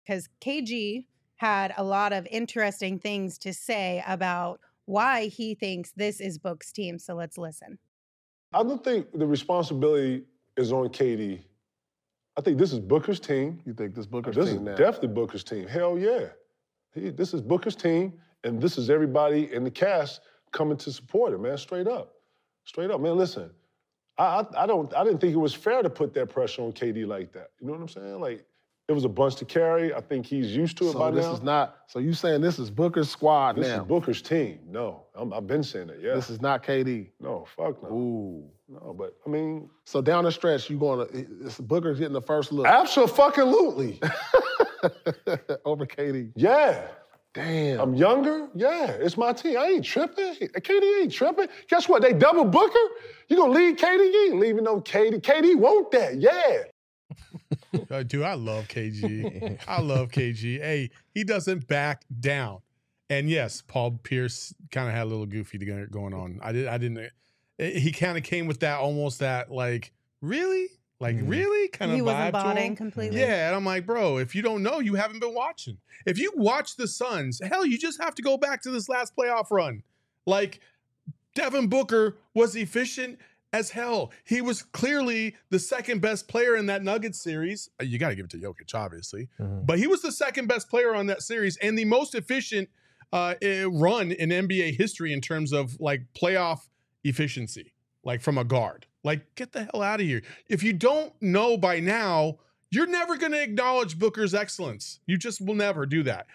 because KG had a lot of interesting things to say about why he thinks this is Book's team. So let's listen. I don't think the responsibility is on KD. I think this is Booker's team. You think this Booker's this team is now? Definitely Booker's team. Hell yeah. This is Booker's team, and this is everybody in the cast coming to support it, man, straight up. Straight up. Man, listen, I didn't think it was fair to put that pressure on KD like that. You know what I'm saying? Like, it was a bunch to carry. I think he's used to it by now. So you saying this is Booker's squad now? This is Booker's team. No, I've been saying that, yeah. This is not KD? No, fuck no. Ooh. No, but, I mean... So down the stretch, Booker's getting the first look? Absolutely. Over KD? Yeah. Damn. I'm younger? Yeah, it's my team. I ain't tripping. KD ain't tripping. Guess what? They double Booker? You gonna leave KD? You ain't leaving no KD. KD want that, yeah. Dude, I love KG. I love KG. Hey, he doesn't back down. And yes, Paul Pierce kind of had a little goofy going on. I didn't. He kind of came with that almost that like really kind of he vibe wasn't to bought him. in completely. Yeah, and I'm like, bro, if you don't know, you haven't been watching. If you watch the Suns, hell, you just have to go back to this last playoff run. Like Devin Booker was efficient as hell. He was clearly the second best player in that Nuggets series. You got to give it to Jokic, obviously. But he was the second best player on that series and the most efficient run in NBA history in terms of like playoff efficiency, like from a guard. Like, get the hell out of here. If you don't know by now, you're never going to acknowledge Booker's excellence. You just will never do that.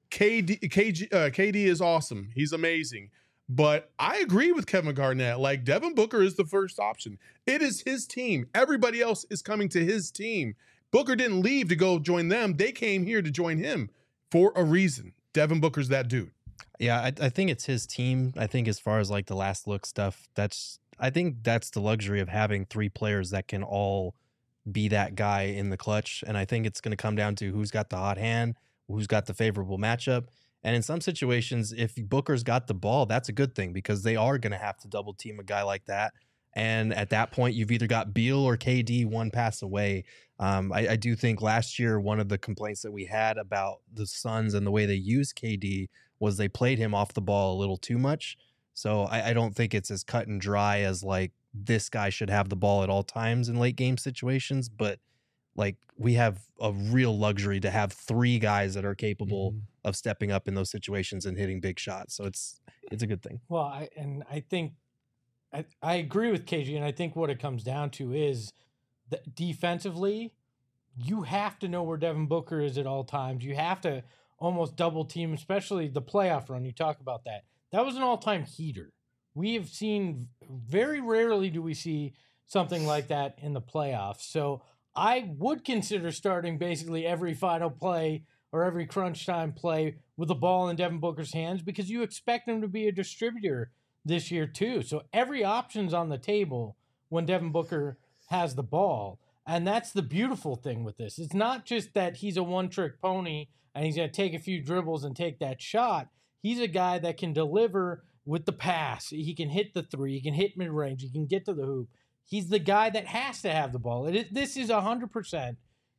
KD is awesome. He's amazing. But I agree with Kevin Garnett. Like, Devin Booker is the first option. It is his team. Everybody else is coming to his team. Booker didn't leave to go join them. They came here to join him for a reason. Devin Booker's that dude. Yeah, I think it's his team. I think as far as like the last look stuff, I think that's the luxury of having three players that can all be that guy in the clutch. And I think it's going to come down to who's got the hot hand, who's got the favorable matchup. And in some situations, if Booker's got the ball, that's a good thing because they are going to have to double team a guy like that. And at that point, you've either got Beal or KD one pass away. I do think last year, one of the complaints that we had about the Suns and the way they use KD was they played him off the ball a little too much. So I don't think it's as cut and dry as like this guy should have the ball at all times in late game situations. But like we have a real luxury to have three guys that are capable of stepping up in those situations and hitting big shots. So it's a good thing. Well, I think I agree with KG, and I think what it comes down to is that defensively, you have to know where Devin Booker is at all times. You have to almost double team, especially the playoff run. You talk about that. That was an all-time heater. We have seen, very rarely do we see something like that in the playoffs. So I would consider starting basically every final play or every crunch time play with the ball in Devin Booker's hands because you expect him to be a distributor this year too. So every option's on the table when Devin Booker has the ball. And that's the beautiful thing with this. It's not just that he's a one-trick pony and he's going to take a few dribbles and take that shot. He's a guy that can deliver with the pass. He can hit the three. He can hit mid-range. He can get to the hoop. He's the guy that has to have the ball. This is 100%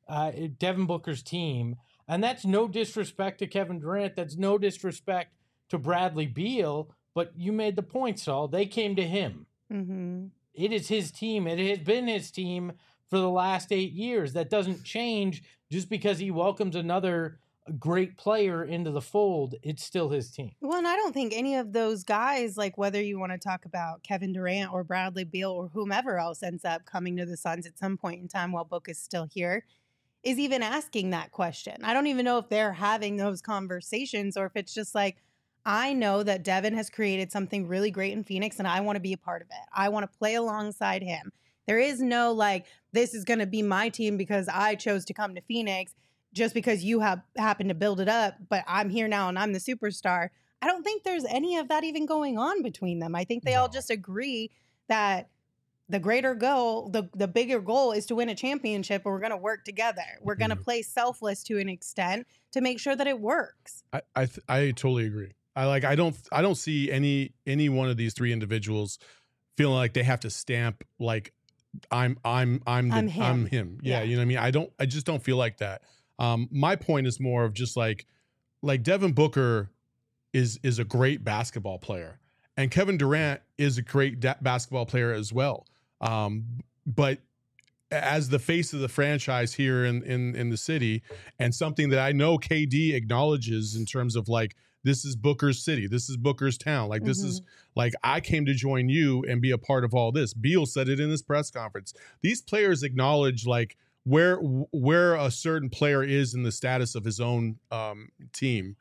Devin Booker's team. And that's no disrespect to Kevin Durant. That's no disrespect to Bradley Beal. But you made the point, Saul. They came to him. Mm-hmm. It is his team. It has been his team for the last 8 years. That doesn't change just because he welcomes another great player into the fold. It's still his team. Well, and I don't think any of those guys, like whether you want to talk about Kevin Durant or Bradley Beal or whomever else ends up coming to the Suns at some point in time while Book is still here, is even asking that question. I don't even know if they're having those conversations or if it's just like, I know that Devin has created something really great in Phoenix and I want to be a part of it. I want to play alongside him. There is no like, this is going to be my team because I chose to come to Phoenix just because you have happened to build it up, but I'm here now and I'm the superstar. I don't think there's any of that even going on between them. I think they all just agree that the greater goal, the bigger goal is to win a championship, and we're going to work together. We're going to play selfless to an extent to make sure that it works. I totally agree. I don't see any one of these three individuals feeling like they have to stamp like I'm him. Yeah, you know what I mean? I just don't feel like that. My point is more of just like Devin Booker is a great basketball player, and Kevin Durant is a great basketball player as well. But as the face of the franchise here in the city, and something that I know KD acknowledges in terms of like, this is Booker's city, this is Booker's town. Like, this is like, I came to join you and be a part of all this. Beal said it in his press conference. These players acknowledge like where a certain player is in the status of his own team.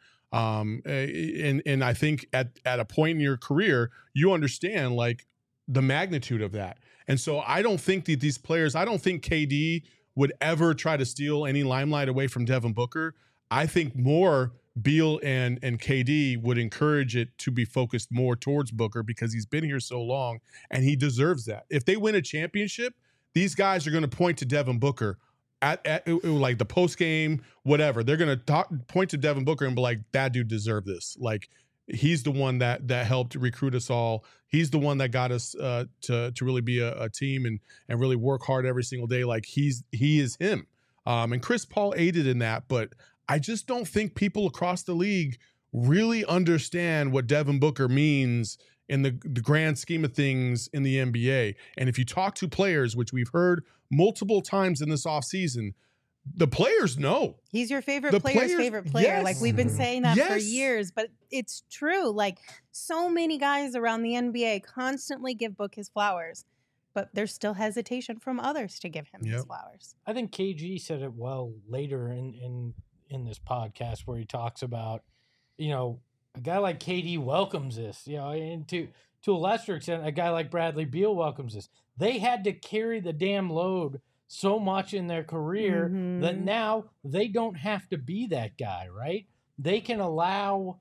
And I think at a point in your career, you understand like the magnitude of that. And so I don't think that these players, I don't think KD would ever try to steal any limelight away from Devin Booker. I think more Beal and KD would encourage it to be focused more towards Booker because he's been here so long and he deserves that. If they win a championship, these guys are going to point to Devin Booker at like the post game, whatever. They're going to point to Devin Booker and be like, that dude deserved this. Like, he's the one that helped recruit us all. He's the one that got us to really be a team and really work hard every single day. Like, he is him. And Chris Paul aided in that, but I just don't think people across the league really understand what Devin Booker means in the grand scheme of things in the NBA. And if you talk to players, which we've heard multiple times in this offseason, the players know. He's your favorite player's favorite player. Yes. Like, we've been saying that for Yes. years, but it's true. Like, so many guys around the NBA constantly give Book his flowers, but there's still hesitation from others to give him his Yep. flowers. I think KG said it well later in this podcast where he talks about, you know, a guy like KD welcomes this, you know, and to a lesser extent, a guy like Bradley Beal welcomes this. They had to carry the damn load so much in their career that now they don't have to be that guy, right? They can allow,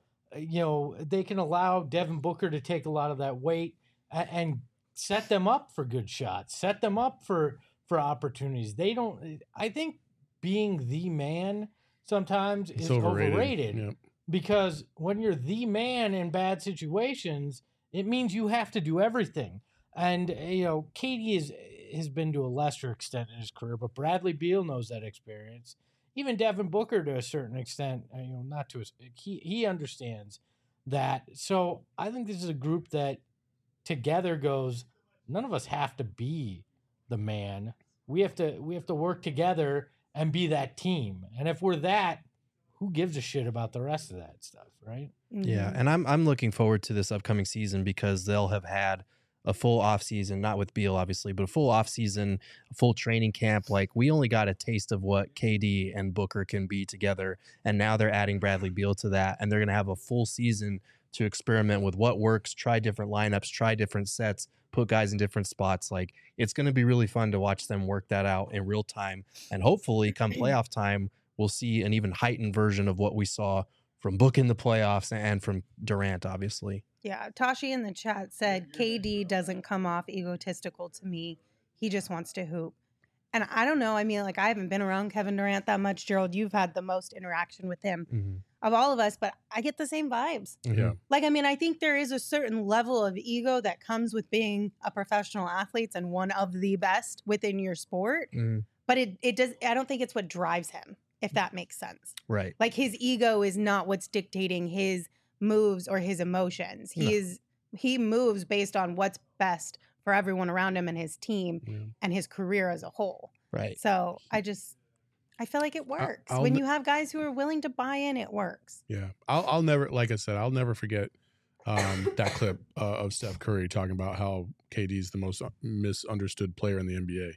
Devin Booker to take a lot of that weight and set them up for good shots, set them up for opportunities. I think being the man sometimes is overrated. Yep. Because when you're the man in bad situations, it means you have to do everything. And, you know, KD has been to a lesser extent in his career, but Bradley Beal knows that experience. Even Devin Booker to a certain extent, he understands that. So I think this is a group that together goes, none of us have to be the man. We have to work together and be that team. And if we're that, who gives a shit about the rest of that stuff, right? Yeah, and I'm looking forward to this upcoming season because they'll have had a full off season, not with Beal obviously, but a full off season, a full training camp. Like, we only got a taste of what KD and Booker can be together, and now they're adding Bradley Beal to that, and they're going to have a full season to experiment with what works, try different lineups, try different sets, put guys in different spots. Like, it's going to be really fun to watch them work that out in real time, and hopefully come playoff time, we'll see an even heightened version of what we saw from Book in the playoffs and from Durant, obviously. Yeah, Tashi in the chat said KD doesn't come off egotistical to me. He just wants to hoop. And I don't know. I mean, like, I haven't been around Kevin Durant that much. Gerald, you've had the most interaction with him of all of us, but I get the same vibes. Yeah. Like, I mean, I think there is a certain level of ego that comes with being a professional athlete and one of the best within your sport. But it does. I don't think it's what drives him, if that makes sense. Right. Like, his ego is not what's dictating his moves or his emotions. He moves based on what's best for everyone around him and his team and his career as a whole. Right. So I feel like it works. When you have guys who are willing to buy in, it works. Yeah. I'll never, like I said, I'll never forget that clip of Steph Curry talking about how KD is the most misunderstood player in the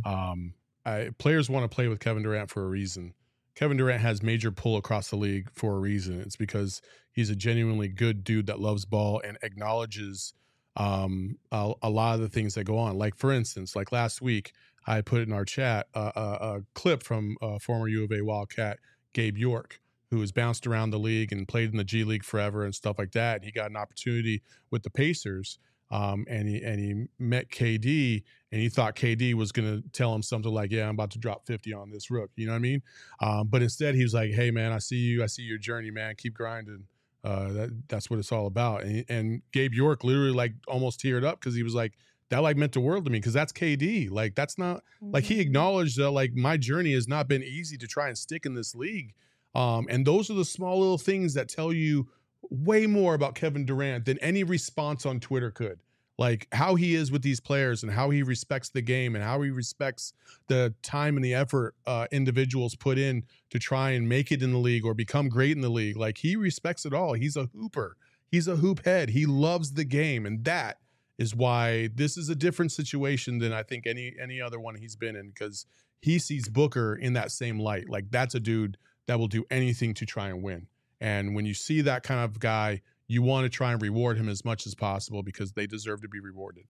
NBA. Players want to play with Kevin Durant for a reason. Kevin Durant has major pull across the league for a reason. It's because he's a genuinely good dude that loves ball and acknowledges a lot of the things that go on. Like, for instance, like last week, I put in our chat a clip from former U of A Wildcat Gabe York, who has bounced around the league and played in the G League forever and stuff like that. And he got an opportunity with the Pacers, and he met KD, and he thought KD was going to tell him something like, yeah, I'm about to drop 50 on this rook. You know what I mean? But instead he was like, hey man, I see your journey, man. Keep grinding. That's what it's all about. And Gabe York literally like almost teared up because he was like, that like meant the world to me because that's KD. Like that's not like he acknowledged that like my journey has not been easy to try and stick in this league. And those are the small little things that tell you way more about Kevin Durant than any response on Twitter could. Like how he is with these players and how he respects the game and how he respects the time and the effort individuals put in to try and make it in the league or become great in the league. Like he respects it all. He's a hooper. He's a hoop head. He loves the game. And that is why this is a different situation than I think any other one he's been in, because he sees Booker in that same light. Like that's a dude that will do anything to try and win. And when you see that kind of guy, you want to try and reward him as much as possible because they deserve to be rewarded.